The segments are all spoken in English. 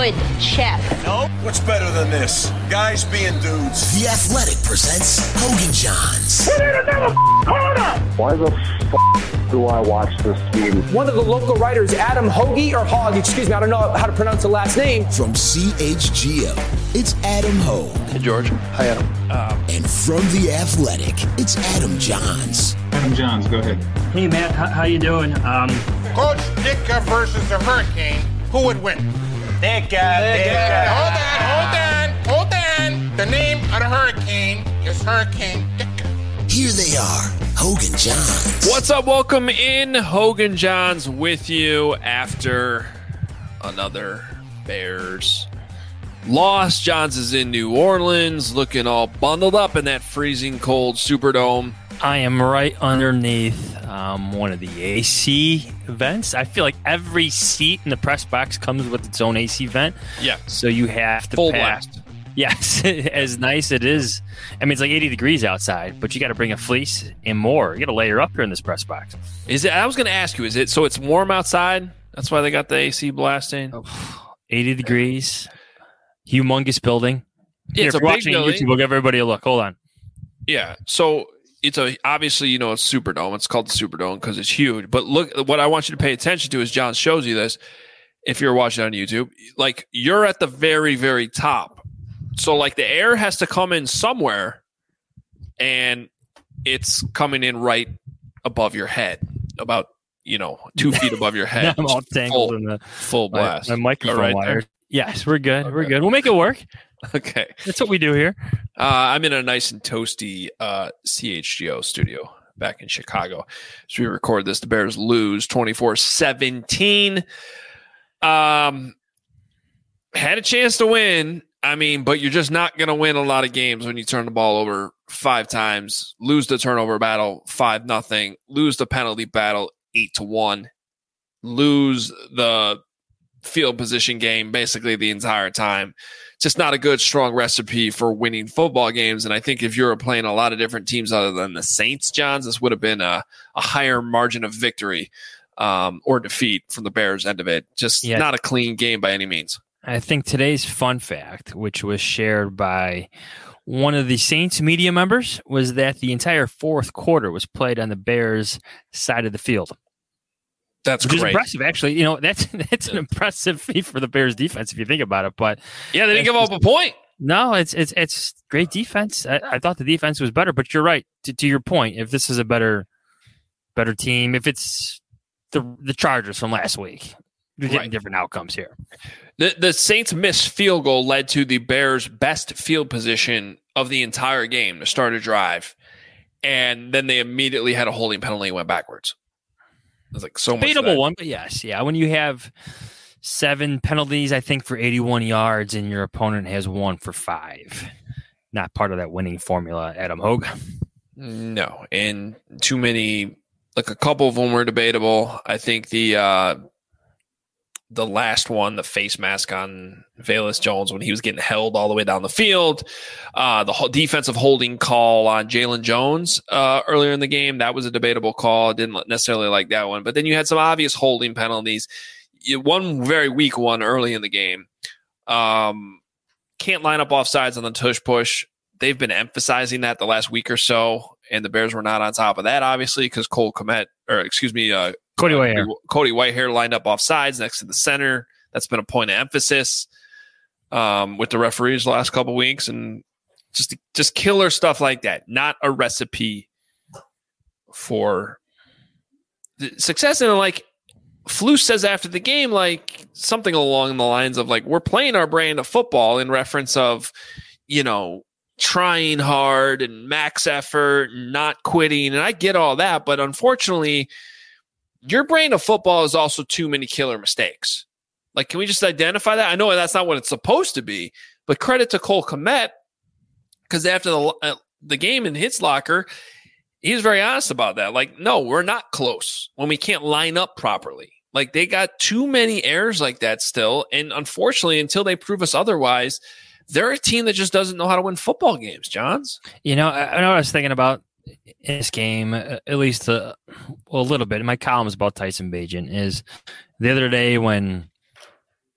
Good. Check. No. What's better than this? Guys being dudes. The Athletic presents Hogan Johns. We need another corner! Why the do I watch this team? One of the local writers, Adam Hoagie, or Hogg, excuse me, I don't know how to pronounce the last name. From CHGO, it's Adam Hogue. Hey, George. Hi, Adam. And from The Athletic, it's Adam Johns. Adam Johns, go ahead. Hey, Matt, how you doing? Coach Ditka versus the Hurricane, who would win? Ditka. Hold on. The name of the Hurricane is Hurricane Ditka. Here they are, Hogan Johns. What's up? Welcome in. Hogan Johns with you after another Bears loss. Johns is in New Orleans, looking all bundled up in that freezing cold Superdome. I am right underneath one of the AC vents. I feel like every seat in the press box comes with its own AC vent. Yeah. So you have to full pack. blast. Yes, as nice it is. I mean, it's like 80 degrees outside, but you got to bring a fleece and more. You got to layer up here in this press box. Is it? I was going to ask you, is it so it's warm outside? That's why they got the AC blasting? 80 degrees. Humongous building. Yeah, Here, it's if a you're big watching building. YouTube, we'll give everybody a look. Hold on. Yeah. So it's obviously, it's Superdome. It's called the Superdome because it's huge. But look, what I want you to pay attention to is John shows you this. If you're watching on YouTube, like you're at the very, very top. So like the air has to come in somewhere, and it's coming in right above your head, about 2 feet above your head. I'm all tangled in the full blast. My microphone right wire. there? Yes, we're good. Okay. We're good. We'll make it work. Okay, that's what we do here. I'm in a nice and toasty CHGO studio back in Chicago. So we record this. The Bears lose 24-17. Had a chance to win. I mean, but you're just not going to win a lot of games when you turn the ball over 5 times, lose the turnover battle 5-0, lose the penalty battle 8-1, lose the field position game basically the entire time. Just not a good, strong recipe for winning football games. And I think if you're playing a lot of different teams other than the Saints, Johns, this would have been a higher margin of victory or defeat from the Bears' end of it. Just not a clean game by any means. I think today's fun fact, which was shared by one of the Saints media members, was that the entire fourth quarter was played on the Bears' side of the field. That's Which great. Is impressive, actually. That's an impressive feat for the Bears defense if you think about it. But yeah, they didn't give up a point. No, it's great defense. I thought the defense was better, but you're right. To your point, if this is a better team, if it's the Chargers from last week, you're getting different outcomes here. The Saints' missed field goal led to the Bears' best field position of the entire game to start a drive, and then they immediately had a holding penalty and went backwards. It was like so much. Debatable one, but yes, yeah. When you have 7 penalties, I think for 81 yards, and your opponent has 1 for 5, not part of that winning formula, Adam Hogue. No, and too many. Like a couple of them were debatable. I think the last one, the face mask on Velus Jones when he was getting held all the way down the field, the whole defensive holding call on Jalen Jones earlier in the game, that was a debatable call. I didn't necessarily like that one. But then you had some obvious holding penalties. One very weak one early in the game. Can't line up offsides on the tush push. They've been emphasizing that the last week or so, and the Bears were not on top of that, obviously, because Cody Whitehair lined up off sides next to the center. That's been a point of emphasis with the referees the last couple weeks, and just killer stuff like that. Not a recipe for success. And like Flus says after the game, like something along the lines of like, we're playing our brand of football in reference of, trying hard and max effort and not quitting. And I get all that, but unfortunately, your brand of football is also too many killer mistakes. Like, can we just identify that? I know that's not what it's supposed to be, but credit to Cole Kmet, because after the game in his locker, he was very honest about that. Like, no, we're not close when we can't line up properly. Like, they got too many errors like that still. And unfortunately, until they prove us otherwise, they're a team that just doesn't know how to win football games, Johns. I know what I was thinking about in this game, at least a little bit. My column is about Tyson Bagent. Is the other day when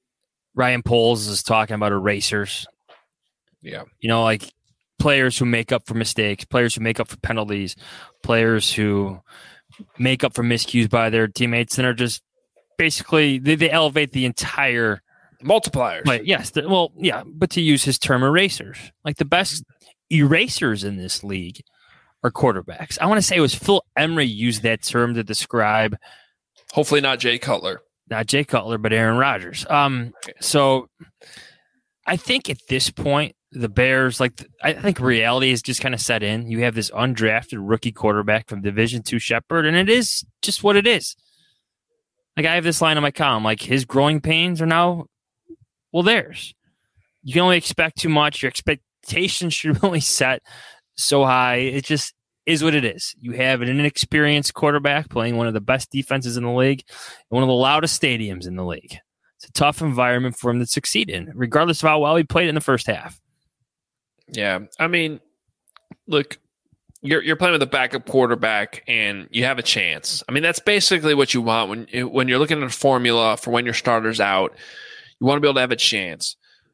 Ryan Poles is talking about erasers. Yeah. Like players who make up for mistakes, players who make up for penalties, players who make up for miscues by their teammates and are just basically they elevate the entire multipliers. Right. Yes. But to use his term, erasers. Like the best erasers in this league are quarterbacks. I want to say it was Phil Emery used that term to describe. Hopefully not Jay Cutler. Not Jay Cutler, but Aaron Rodgers. So I think at this point, the Bears, I think reality is just kind of set in. You have this undrafted rookie quarterback from Division II Shepherd, and it is just what it is. Like I have this line in my column, like his growing pains are now, theirs. You can only expect too much. Your expectations should only set so high. It just is what it is. You have an inexperienced quarterback playing one of the best defenses in the league, and one of the loudest stadiums in the league. It's a tough environment for him to succeed in, regardless of how well he played in the first half. Yeah, I mean, look, you're playing with a backup quarterback, and you have a chance. I mean, that's basically what you want when you're looking at a formula for when your starter's out. You want to be able to have a chance.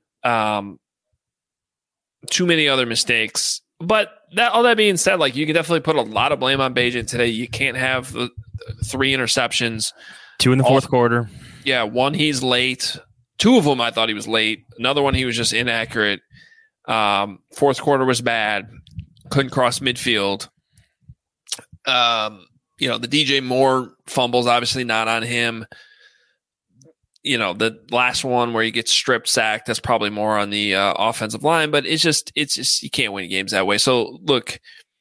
Too many other mistakes. But all that being said, like you can definitely put a lot of blame on Bagent today. You can't have 3 interceptions. 2 in the fourth quarter. Yeah, 1 he's late. 2 of them I thought he was late. Another one he was just inaccurate. Fourth quarter was bad. Couldn't cross midfield. The DJ Moore fumbles obviously not on him. The last one where he gets strip sacked, that's probably more on the offensive line, but it's just you can't win games that way. So look,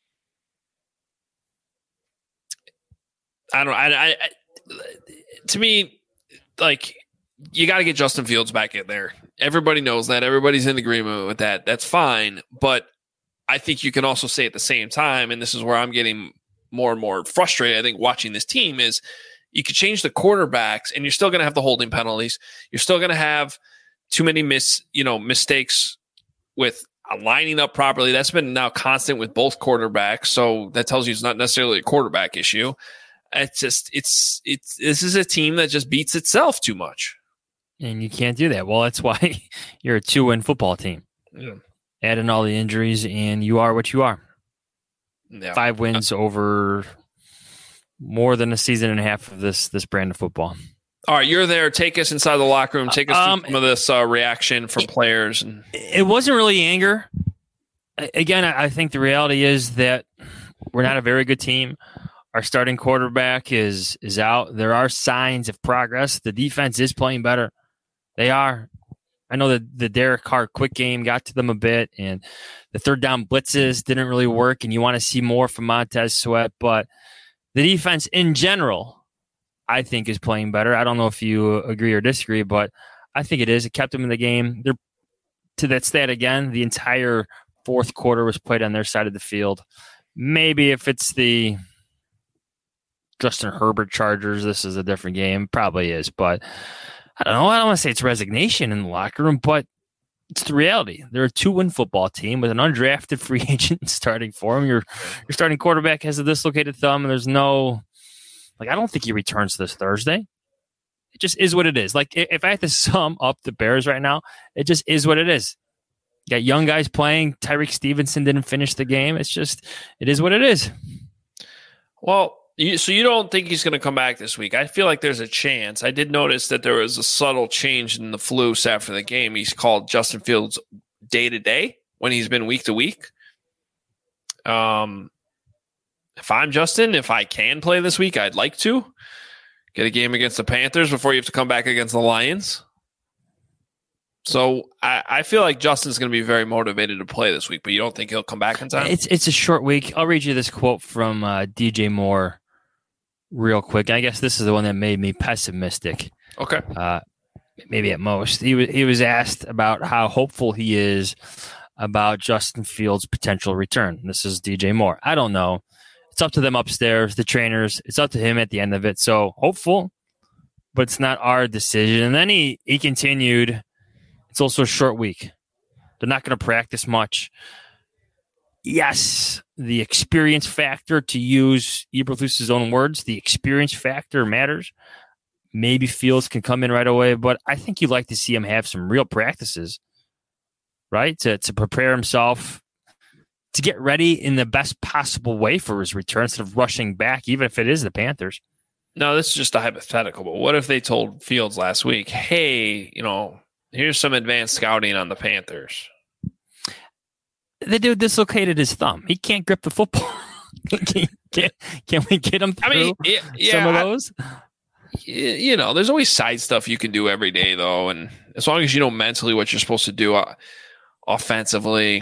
to me, like you got to get Justin Fields back in there. Everybody knows that. Everybody's in agreement with that. That's fine. But I think you can also say at the same time, and this is where I'm getting more and more frustrated, I think, watching this team is you could change the quarterbacks and you're still going to have the holding penalties. You're still going to have too many mistakes with lining up properly. That's been now constant with both quarterbacks. So that tells you it's not necessarily a quarterback issue. It's just, this is a team that just beats itself too much. And you can't do that. Well, that's why you're a 2-win football team. Yeah. Add in all the injuries and you are what you are. Yeah. 5 wins over more than a season and a half of this brand of football. All right, you're there. Take us inside the locker room. Take us through some of this reaction from players. It wasn't really anger. Again, I think the reality is that we're not a very good team. Our starting quarterback is out. There are signs of progress. The defense is playing better. They are. I know that the Derek Carr quick game got to them a bit, and the third down blitzes didn't really work, and you want to see more from Montez Sweat, but the defense in general, I think, is playing better. I don't know if you agree or disagree, but I think it is. It kept them in the game. They're, to that stat again, the entire fourth quarter was played on their side of the field. Maybe if it's the Justin Herbert Chargers, this is a different game. Probably is, but I don't know. I don't want to say it's resignation in the locker room, but it's the reality. They're a 2-win football team with an undrafted free agent starting for them. Your starting quarterback has a dislocated thumb, and there's no, I don't think he returns this Thursday. It just is what it is. If I had to sum up the Bears right now, it just is what it is. You got young guys playing. Tyreek Stevenson didn't finish the game. It is what it is. Well, so you don't think he's going to come back this week? I feel like there's a chance. I did notice that there was a subtle change in the Flus after the game. He's called Justin Fields day to day when he's been week to week. If I'm Justin, if I can play this week, I'd like to get a game against the Panthers before you have to come back against the Lions. So I feel like Justin's going to be very motivated to play this week, but you don't think he'll come back in time? It's a short week. I'll read you this quote from DJ Moore real quick. I guess this is the one that made me pessimistic. Okay. Maybe at most. He was asked about how hopeful he is about Justin Fields' potential return. This is DJ Moore. I don't know. It's up to them upstairs, the trainers. It's up to him at the end of it. So hopeful, but it's not our decision. And then he continued, it's also a short week. They're not going to practice much. Yes, the experience factor, to use Eberflus's own words, the experience factor matters. maybe Fields can come in right away, but I think you'd like to see him have some real practices, right? To prepare himself to get ready in the best possible way for his return instead of rushing back, even if it is the Panthers. No, this is just a hypothetical, but what if they told Fields last week, hey, here's some advanced scouting on the Panthers? The dude dislocated his thumb. He can't grip the football. Can we get him through some of those? There's always side stuff you can do every day, though. And as long as you know mentally what you're supposed to do offensively,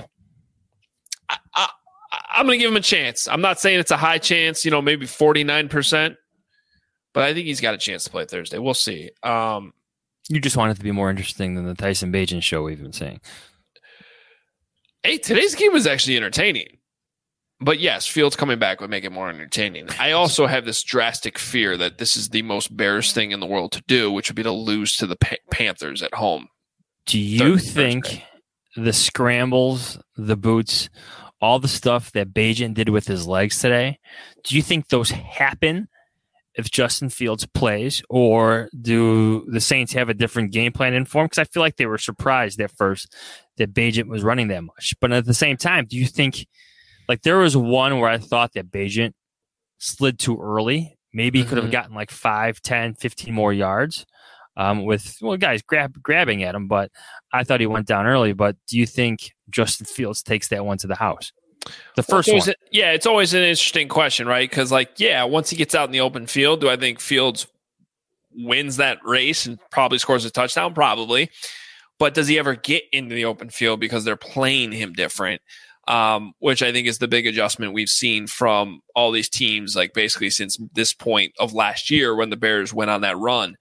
I'm going to give him a chance. I'm not saying it's a high chance, maybe 49%, but I think he's got a chance to play Thursday. We'll see. You just want it to be more interesting than the Tyson Bagent show we've been saying. Hey, today's game was actually entertaining. But yes, Fields coming back would make it more entertaining. I also have this drastic fear that this is the most Bears thing in the world to do, which would be to lose to the Panthers at home. Do you think the scrambles, the boots, all the stuff that Bagent did with his legs today, do you think those happen if Justin Fields plays, or do the Saints have a different game plan in form? Because I feel like they were surprised at first that Bagent was running that much. But at the same time, do you think, like, there was one where I thought that Bagent slid too early. Maybe he could have gotten like 5, 10, 15 more yards with guys grabbing at him, but I thought he went down early. But do you think Justin Fields takes that one to the house? The first one. It's always an interesting question, right? Because, once he gets out in the open field, do I think Fields wins that race and probably scores a touchdown? Probably. But does he ever get into the open field because they're playing him different? Which I think is the big adjustment we've seen from all these teams, like basically since this point of last year when the Bears went on that run.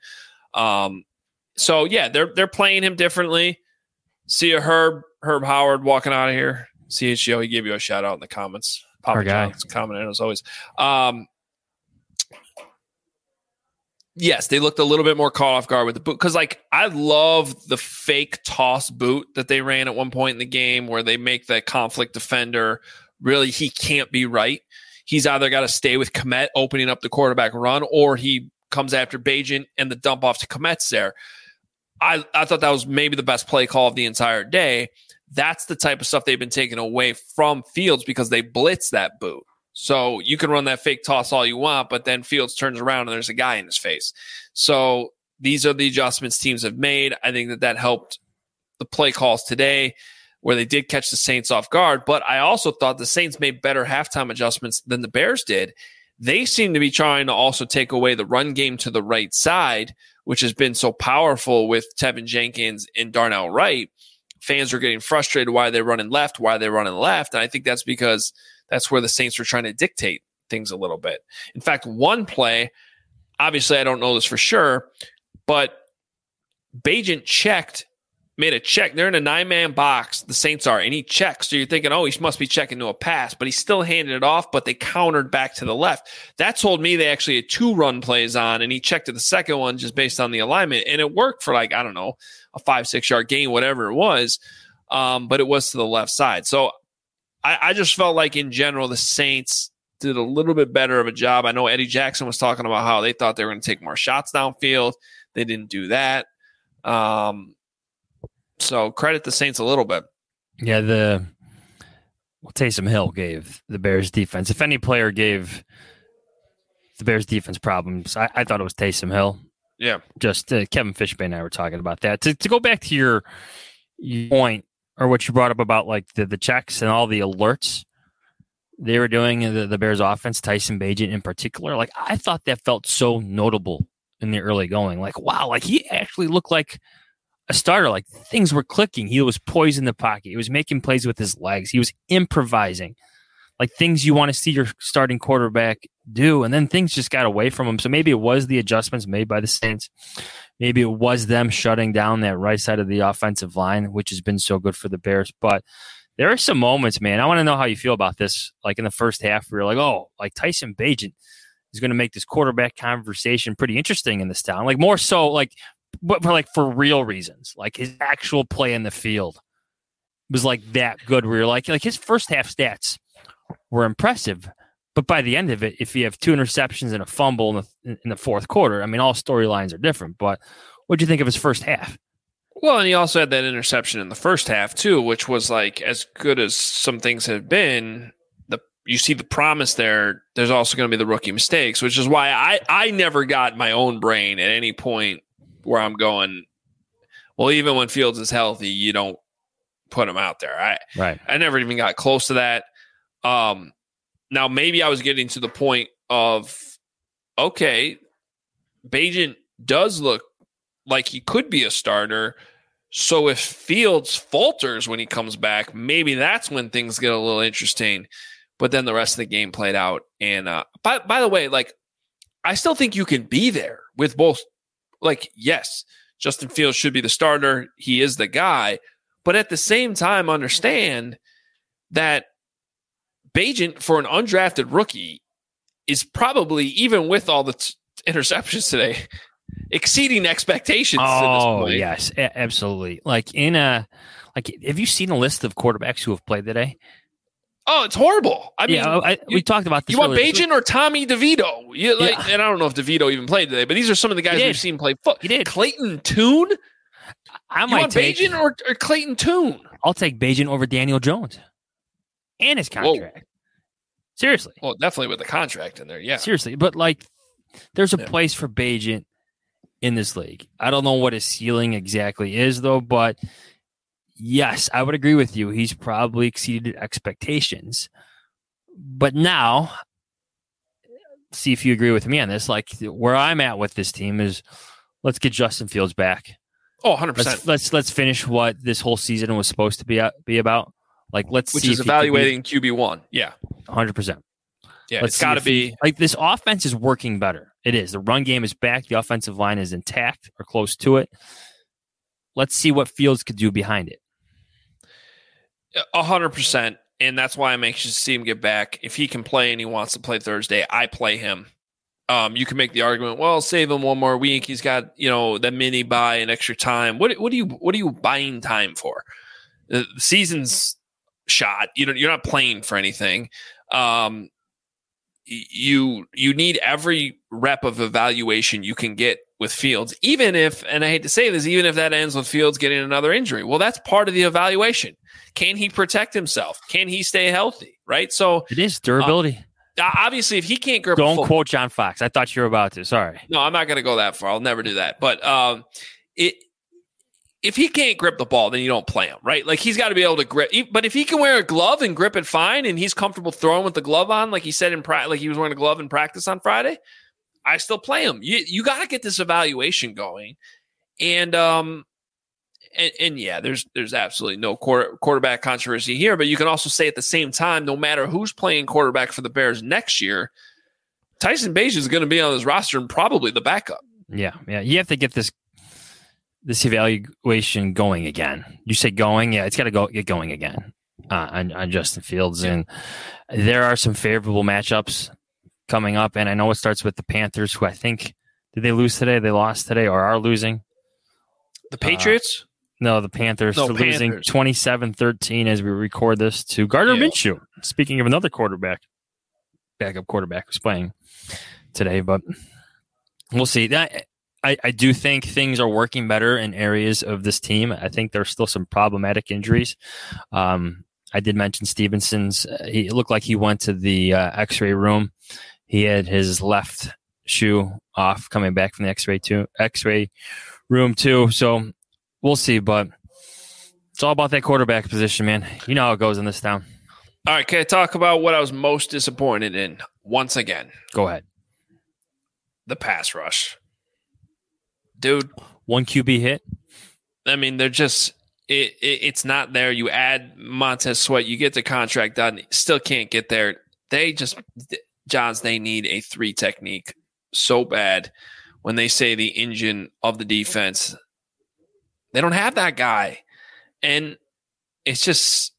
They're playing him differently. See a Herb Howard walking out of here. CHGO, he gave you a shout out in the comments. Papa John's commenting as always. Yes, they looked a little bit more caught off guard with the boot. Because, I love the fake toss boot that they ran at one point in the game where they make the conflict defender, really, he can't be right. He's either got to stay with Kmet opening up the quarterback run, or he comes after Bagent and the dump off to Kmet's there. I thought that was maybe the best play call of the entire day. That's the type of stuff they've been taking away from Fields because they blitz that boot. So you can run that fake toss all you want, but then Fields turns around and there's a guy in his face. So these are the adjustments teams have made. I think that helped the play calls today where they did catch the Saints off guard. But I also thought the Saints made better halftime adjustments than the Bears did. They seem to be trying to also take away the run game to the right side, which has been so powerful with Tevin Jenkins and Darnell Wright. Fans are getting frustrated why they're running left. And I think that's because that's where the Saints are trying to dictate things a little bit. In fact, one play, obviously I don't know this for sure, but Bagent made a check. They're in a 9-man box, the Saints are, and he checks. So you're thinking, he must be checking to a pass, but he still handed it off, but they countered back to the left. That told me they actually had 2 run plays on, and he checked to the second one just based on the alignment, and it worked for a 5-6 yard gain, whatever it was, but it was to the left side. So I just felt like in general the Saints did a little bit better of a job. I know Eddie Jackson was talking about how they thought they were going to take more shots downfield. They didn't do that. So credit the Saints a little bit. Yeah, Taysom Hill gave the Bears defense. If any player gave the Bears defense problems, I thought it was Taysom Hill. Yeah. Just Kevin Fishbane and I were talking about that. To go back to your point, or what you brought up about the checks and all the alerts they were doing in the Bears offense, Tyson Bagent in particular, I thought that felt so notable in the early going. Wow, he actually looked like a starter. Things were clicking. He was poised in the pocket. He was making plays with his legs. He was improvising. Things you want to see your starting quarterback do, and then things just got away from him. So maybe it was the adjustments made by the Saints. Maybe it was them shutting down that right side of the offensive line, which has been so good for the Bears. But there are some moments, man. I want to know how you feel about this. In the first half, we were Tyson Bagent is going to make this quarterback conversation pretty interesting in this town. More so, but for real reasons. His actual play in the field was that good. Where you're his first half stats were impressive, But by the end of it, if you have 2 interceptions and a fumble in the fourth quarter, I mean, all storylines are different. But what do you think of his first half? Well, and he also had that interception in the first half too, which was like as good as some things have been. You see the promise there. There's also going to be the rookie mistakes, which is why I never got my own brain at any point where I'm going, well, even when Fields is healthy, you don't put him out there. I never even got close to that. Now, maybe I was getting to the point of, okay, Bagent does look like he could be a starter. So if Fields falters when he comes back, maybe that's when things get a little interesting. But then the rest of the game played out. And by the way, like, I still think you can be there with both. Like, yes, Justin Fields should be the starter. He is the guy. But at the same time, understand that Bagent, for an undrafted rookie, is probably, even with all the interceptions today, exceeding expectations. Oh, yes, absolutely. Like, have you seen a list of quarterbacks who have played today? Oh, it's horrible. I mean, we talked about this. You want Bagent or Tommy DeVito? And I don't know if DeVito even played today, but these are some of the guys we've seen play football. He did. Clayton Tune? You want Bagent or Clayton Tune? I'll take Bagent over Daniel Jones and his contract. Whoa. Seriously. Well, definitely with the contract in there, yeah. Seriously. But, like, there's a place for Bagent in this league. I don't know what his ceiling exactly is, though, but yes, I would agree with you. He's probably exceeded expectations. But now, see if you agree with me on this. Like, where I'm at with this team is, let's get Justin Fields back. Oh, 100%. Let's finish what this whole season was supposed to be about. Like, which is evaluating QB1. Yeah. 100%. Yeah, it's got to be. Like, this offense is working better. It is. The run game is back. The offensive line is intact or close to it. Let's see what Fields could do behind it. 100%. And that's why I'm anxious to see him get back. If he can play and he wants to play Thursday, I play him. You can make the argument, well, save him one more week. He's got, the mini buy and extra time. What are you buying time for? The season's shot. You're not playing for anything. You need every rep of evaluation you can get with Fields, even if, and I hate to say this, even if that ends with Fields getting another injury. Well, that's part of the evaluation. Can he protect himself? Can he stay healthy? Right. So it is durability. Obviously, if he can't grip, don't quote John Fox. I thought you were about to. Sorry. No, I'm not going to go that far. I'll never do that. But if he can't grip the ball, then you don't play him, right? Like, he's got to be able to grip. But if he can wear a glove and grip it fine, and he's comfortable throwing with the glove on, like he said like he was wearing a glove in practice on Friday, I still play him. You got to get this evaluation going, and yeah, there's absolutely no quarterback controversy here. But you can also say at the same time, no matter who's playing quarterback for the Bears next year, Tyson Bagent is going to be on this roster and probably the backup. Yeah. You have to get this evaluation going again. You say going, yeah, it's got to get going again on Justin Fields, and there are some favorable matchups coming up. And I know it starts with the Panthers, who I think, did they lose today? They lost today or are losing. The Patriots? No, the Panthers. They're losing 27-13 as we record this to Gardner Minshew. Speaking of another backup quarterback who's playing today, but we'll see. I do think things are working better in areas of this team. I think there's still some problematic injuries. I did mention Stevenson's. He looked like he went to the X-ray room. He had his left shoe off coming back from the X-ray room too. So we'll see, but it's all about that quarterback position, man. You know how it goes in this town. All right, can I talk about what I was most disappointed in once again? Go ahead. The pass rush. Dude. One QB hit? I mean, they're just it's not there. You add Montez Sweat, you get the contract done, still can't get there. They need a 3 technique so bad. When they say the engine of the defense, they don't have that guy. And it's just,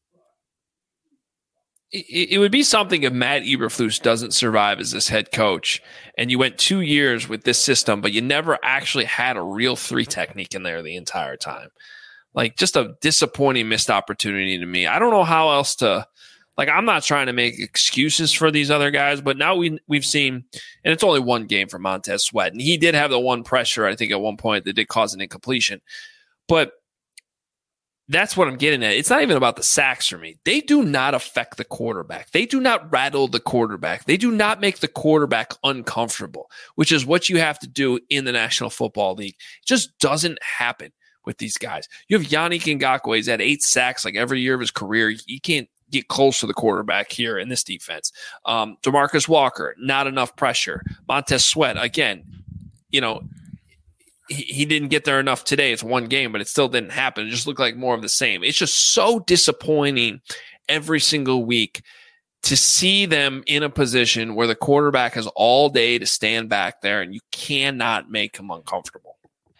it would be something if Matt Eberflus doesn't survive as this head coach and you went 2 years with this system, but you never actually had a real 3 technique in there the entire time. Like, just a disappointing missed opportunity to me. I don't know how else to Like, I'm not trying to make excuses for these other guys, but now we've seen, and it's only one game for Montez Sweat, and he did have the one pressure, I think, at one point that did cause an incompletion. But that's what I'm getting at. It's not even about the sacks for me. They do not affect the quarterback. They do not rattle the quarterback. They do not make the quarterback uncomfortable, which is what you have to do in the National Football League. It just doesn't happen with these guys. You have Yannick Ngakoue. He's had 8 sacks like every year of his career. He can't get close to the quarterback here in this defense. DeMarcus Walker, not enough pressure. Montez Sweat, again, he didn't get there enough today. It's one game, but it still didn't happen. It just looked like more of the same. It's just so disappointing every single week to see them in a position where the quarterback has all day to stand back there and you cannot make him uncomfortable.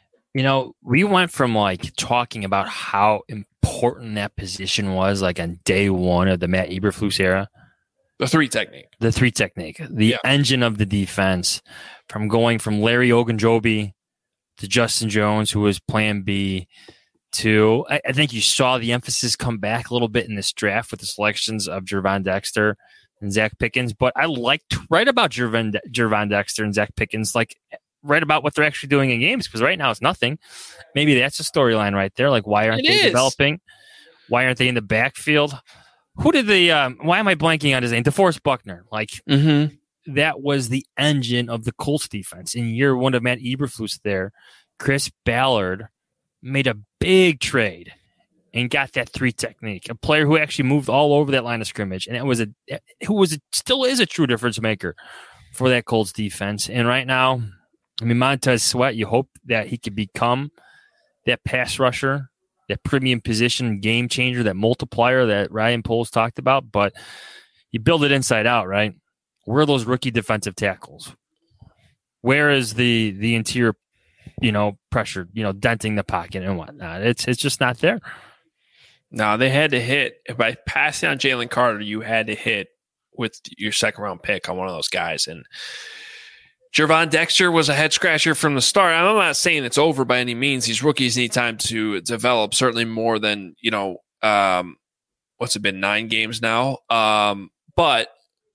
We went from like talking about how important that position was like on day one of the Matt Eberflus era. The three technique, the engine of the defense, from going from Larry Ogunjobi to Justin Jones, who was plan B, to I think you saw the emphasis come back a little bit in this draft with the selections of Gervon Dexter and Zach Pickens. But I liked right about Gervon Dexter and Zach Pickens, like right about what they're actually doing in games, because right now it's nothing. Maybe that's a storyline right there. Like, why aren't they developing? Why aren't they in the backfield? Who did why am I blanking on his name? DeForest Buckner. Like, that was the engine of the Colts defense. In year one of Matt Eberflus there, Chris Ballard made a big trade and got that 3 technique, a player who actually moved all over that line of scrimmage. And it was still is a true difference maker for that Colts defense. And right now, Montez Sweat, you hope that he could become that pass rusher, that premium position game changer, that multiplier that Ryan Poles talked about. But you build it inside out, right? Where are those rookie defensive tackles? Where is the interior, pressure, denting the pocket and whatnot? It's just not there. No, they had to hit. By passing on Jalen Carter, you had to hit with your second-round pick on one of those guys. And Gervon Dexter was a head-scratcher from the start. I'm not saying it's over by any means. These rookies need time to develop, certainly more than, what's it been, 9 games now? But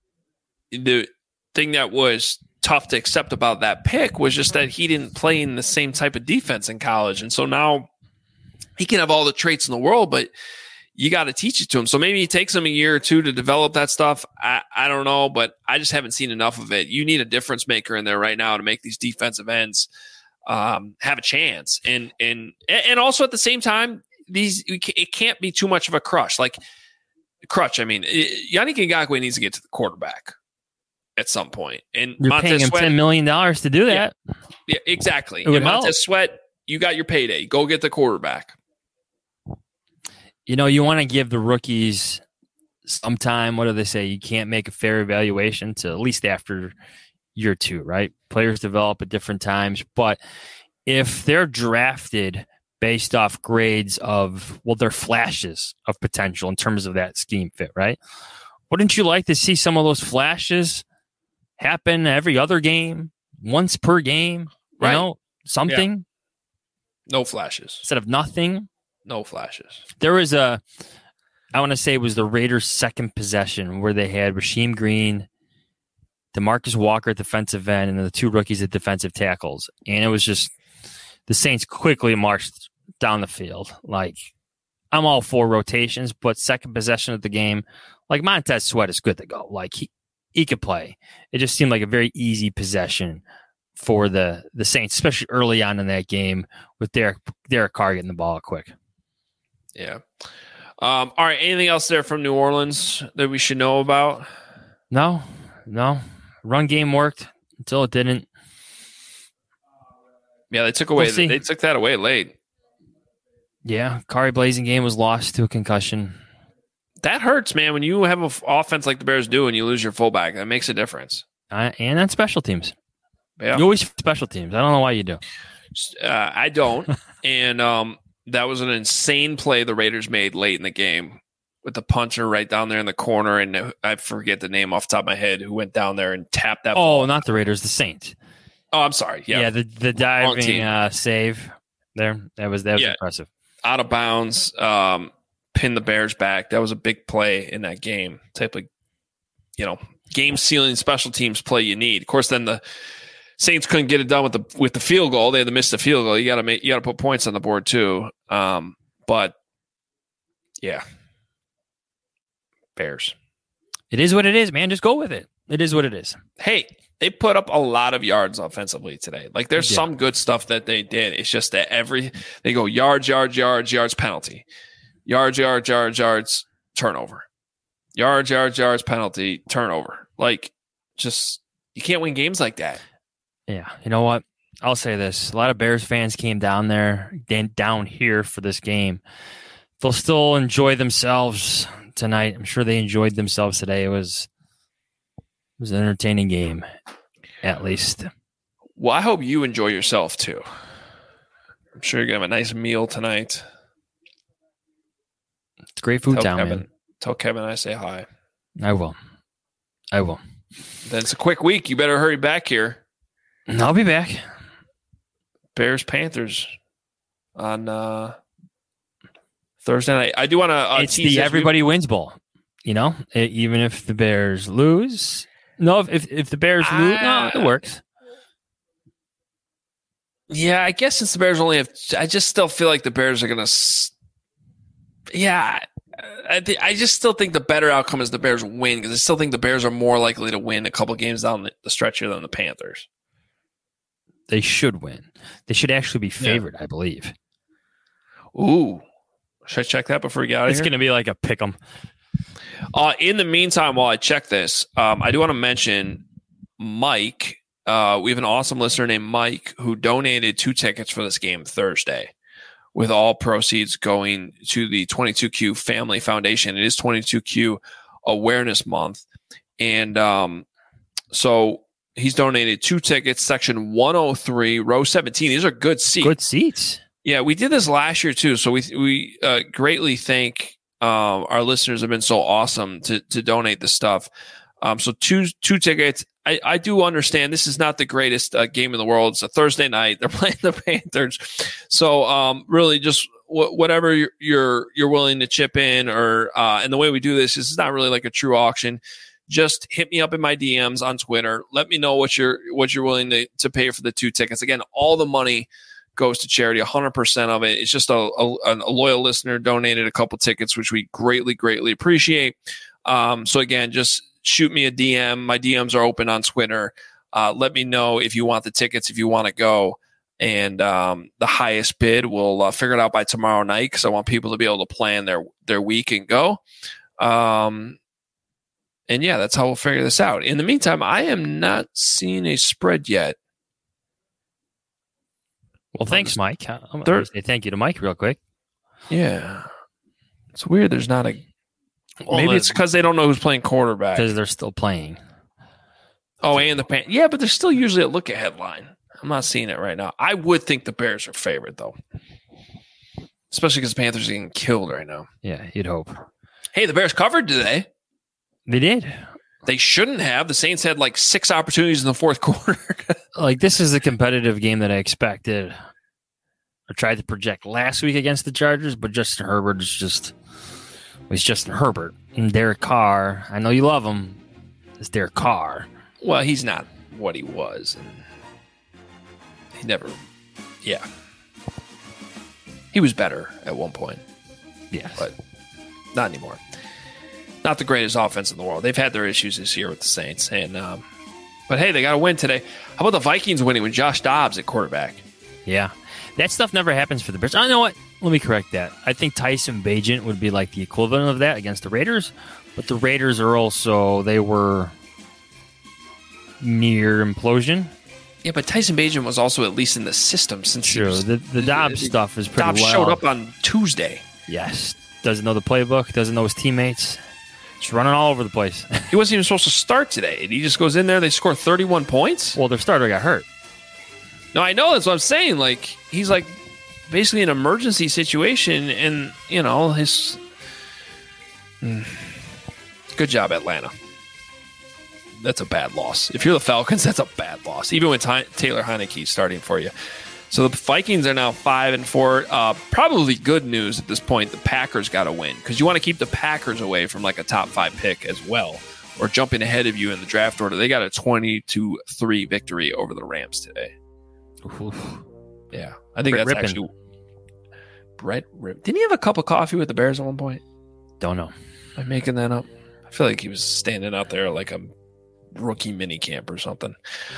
the thing that was tough to accept about that pick was just that he didn't play in the same type of defense in college. And so now he can have all the traits in the world, but you got to teach it to him. So maybe it takes him a year or two to develop that stuff. I don't know, but I just haven't seen enough of it. You need a difference maker in there right now to make these defensive ends have a chance. And also at the same time, it can't be too much of a crutch. Yannick Ngakoue needs to get to the quarterback at some point. And you're Montez paying him Sweat, $10 million to do that. Yeah, exactly. And Montez Sweat, you got your payday. Go get the quarterback. You want to give the rookies some time. What do they say? You can't make a fair evaluation to at least after year 2, right? Players develop at different times. But if they're drafted based off grades of, their flashes of potential in terms of that scheme fit, right? Wouldn't you like to see some of those flashes happen every other game, once per game? Right. Something? Yeah. No flashes. Instead of nothing? No flashes. There was I want to say it was the Raiders' second possession where they had Rasheem Green, DeMarcus Walker at defensive end, and the 2 rookies at defensive tackles. And it was just the Saints quickly marched down the field. Like, I'm all for rotations, but second possession of the game, like Montez Sweat is good to go. Like, he could play. It just seemed like a very easy possession for the Saints, especially early on in that game with Derek Carr getting the ball quick. Yeah. All right. Anything else there from New Orleans that we should know about? No. Run game worked until it didn't. Yeah, they took that away late. Yeah, Kari Blasingame was lost to a concussion. That hurts, man. When you have an offense like the Bears do and you lose your fullback, that makes a difference. And on special teams. Yeah. You always special teams. I don't know why you do. I don't. And that was an insane play the Raiders made late in the game with the punter right down there in the corner. And I forget the name off the top of my head who went down there and tapped that ball. Oh, not the Raiders, the Saints. Oh, I'm sorry. Yeah, the diving save there. That was impressive. Out of bounds. pin the Bears back. That was a big play in that game. Type of, game-sealing special teams play you need. Of course, then the Saints couldn't get it done with the field goal. They had to miss the field goal. You got to put points on the board too. But yeah, Bears. It is what it is, man. Just go with it. It is what it is. Hey, they put up a lot of yards offensively today. Like there's some good stuff that they did. It's just that they go yards, penalty. Yards, turnover. Yards, penalty, turnover. Like, just, you can't win games like that. Yeah. You know what? I'll say this. A lot of Bears fans came down here for this game. They'll still enjoy themselves tonight. I'm sure they enjoyed themselves today. It was an entertaining game, at least. Well, I hope you enjoy yourself, too. I'm sure you're going to have a nice meal tonight. It's great food town, man. Tell Kevin I say hi. I will. Then it's a quick week. You better hurry back here. I'll be back. Bears-Panthers on Thursday night. I do want to it's the everybody wins bowl. Even if the Bears lose. No, if the Bears lose, no, it works. Yeah, I guess since the Bears only have, I just still feel like the Bears are going to. Yeah, I just still think the better outcome is the Bears win because I still think the Bears are more likely to win a couple games down the stretch here than the Panthers. They should win. They should actually be favored, I believe. Ooh, should I check that before we get out of here? It's going to be like a pick 'em. In the meantime, while I check this, I do want to mention Mike. We have an awesome listener named Mike who donated 2 tickets for this game Thursday, with all proceeds going to the 22Q Family Foundation. It is 22Q Awareness Month. And so he's donated 2 tickets, section 103, row 17. These are good seats. Good seats. Yeah, we did this last year too. So we greatly thank our listeners have been so awesome to donate this stuff. So two tickets. I do understand this is not the greatest game in the world. It's a Thursday night. They're playing the Panthers. So really just whatever you're willing to chip in or and the way we do this is not really like a true auction. Just hit me up in my DMs on Twitter. Let me know what you're willing to pay for the 2 tickets. Again, all the money goes to charity, 100% of it. It's just a loyal listener donated a couple tickets, which we greatly, greatly appreciate. So again, just shoot me a DM. My DMs are open on Twitter. Let me know if you want the tickets, if you want to go. And the highest bid, we'll figure it out by tomorrow night because I want people to be able to plan their week and go. And yeah, that's how we'll figure this out. In the meantime, I am not seeing a spread yet. Well, thanks, Mike. I'm going to say thank you to Mike real quick. Yeah. It's weird. There's not a... Maybe it's because they don't know who's playing quarterback. Because they're still playing. Oh, and yeah, but there's still usually a look-ahead line. I'm not seeing it right now. I would think the Bears are favored, though. Especially because the Panthers are getting killed right now. Yeah, you'd hope. Hey, the Bears covered today. They did. They shouldn't have. The Saints had like 6 opportunities in the fourth quarter. Like, this is the competitive game that I expected. I tried to project last week against the Chargers, but Justin Herbert was Justin Herbert. And Derek Carr, I know you love him. It's Derek Carr. Well, he's not what he was. And he never, yeah. He was better at one point. Yes. But not anymore. Not the greatest offense in the world. They've had their issues this year with the Saints. And but hey, they got to win today. How about the Vikings winning with Josh Dobbs at quarterback? Yeah. That stuff never happens for the Bears. I know what. Let me correct that. I think Tyson Bagent would be like the equivalent of that against the Raiders. But the Raiders are also, they were near implosion. Yeah, but Tyson Bagent was also at least in the system since True. The Dobbs stuff is pretty Dobbs well. showed up on Tuesday. Yes. Doesn't know the playbook. Doesn't know his teammates. Just running all over the place. He wasn't even supposed to start today. He just goes in there. They score 31 points. Well, their starter got hurt. No, I know. That's what I'm saying. Like, he's like basically an emergency situation. And, you know, his... Good job, Atlanta. That's a bad loss. If you're the Falcons, that's a bad loss. Even with Taylor Heineke starting for you. So the Vikings are now 5-4. Probably good news at this point. The Packers got to win because you want to keep the Packers away from like a top 5 pick as well, or jumping ahead of you in the draft order. They got a 20-3 victory over the Rams today. Oof. Yeah, I think Brett that's Rippin. actually Brett Rippin. Didn't he have a cup of coffee with the Bears at one point? Don't know. Am I making that up? I feel like he was standing out there like a rookie mini camp or something.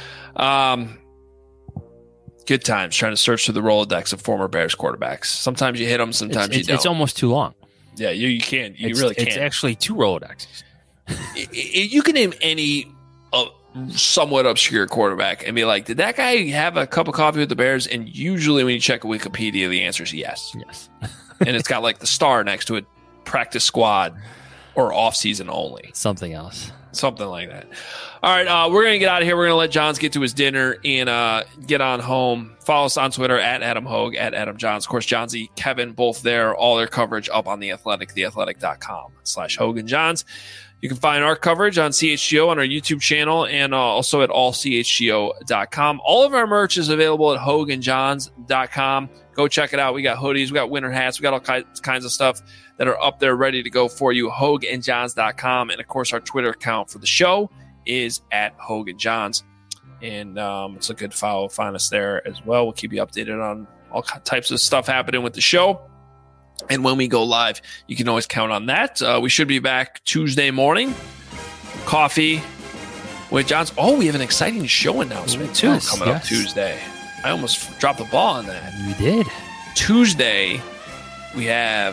Good times trying to search through the Rolodex of former Bears quarterbacks. Sometimes you hit them, sometimes you don't. It's almost too long. Yeah, you can't. You really can't. It's actually 2 Rolodexes. You can name any somewhat obscure quarterback and be like, did that guy have a cup of coffee with the Bears? And usually when you check Wikipedia, the answer is yes. Yes. And it's got like the star next to it, practice squad or off season only. Something else. Something like that. All right, we're going to get out of here. We're going to let Johns get to his dinner and get on home. Follow us on Twitter at Adam Hogue, at Adam Johns. Of course, Johnsy, Kevin, both there. All their coverage up on The Athletic, theathletic.com/Hogue and Johns. You can find our coverage on CHGO on our YouTube channel and also at allchgo.com. All of our merch is available at hogueandjohns.com. Go check it out. We got hoodies, we got winter hats, we got all kinds of stuff that are up there ready to go for you. hogueandjohns.com. And of course, our Twitter account for the show is at Hogue and Johns. And it's a good follow. Find us there as well. We'll keep you updated on all types of stuff happening with the show. And when we go live, you can always count on that. We should be back Tuesday morning. Coffee with Johns. Oh, we have an exciting show announcement, too, coming up Tuesday. I almost dropped the ball on that. You did. Tuesday, we have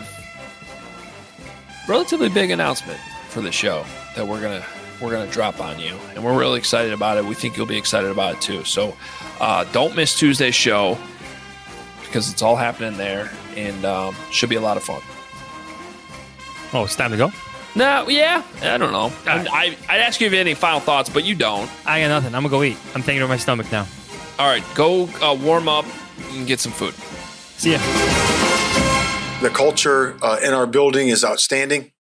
a relatively big announcement for the show that we're gonna drop on you. And we're really excited about it. We think you'll be excited about it, too. So don't miss Tuesday's show because it's all happening there. And should be a lot of fun. Oh, it's time to go? No, yeah. I don't know. I'd ask you if you had any final thoughts, but you don't. I got nothing. I'm going to go eat. I'm thinking of my stomach now. All right. Go warm up and get some food. See ya. The culture in our building is outstanding.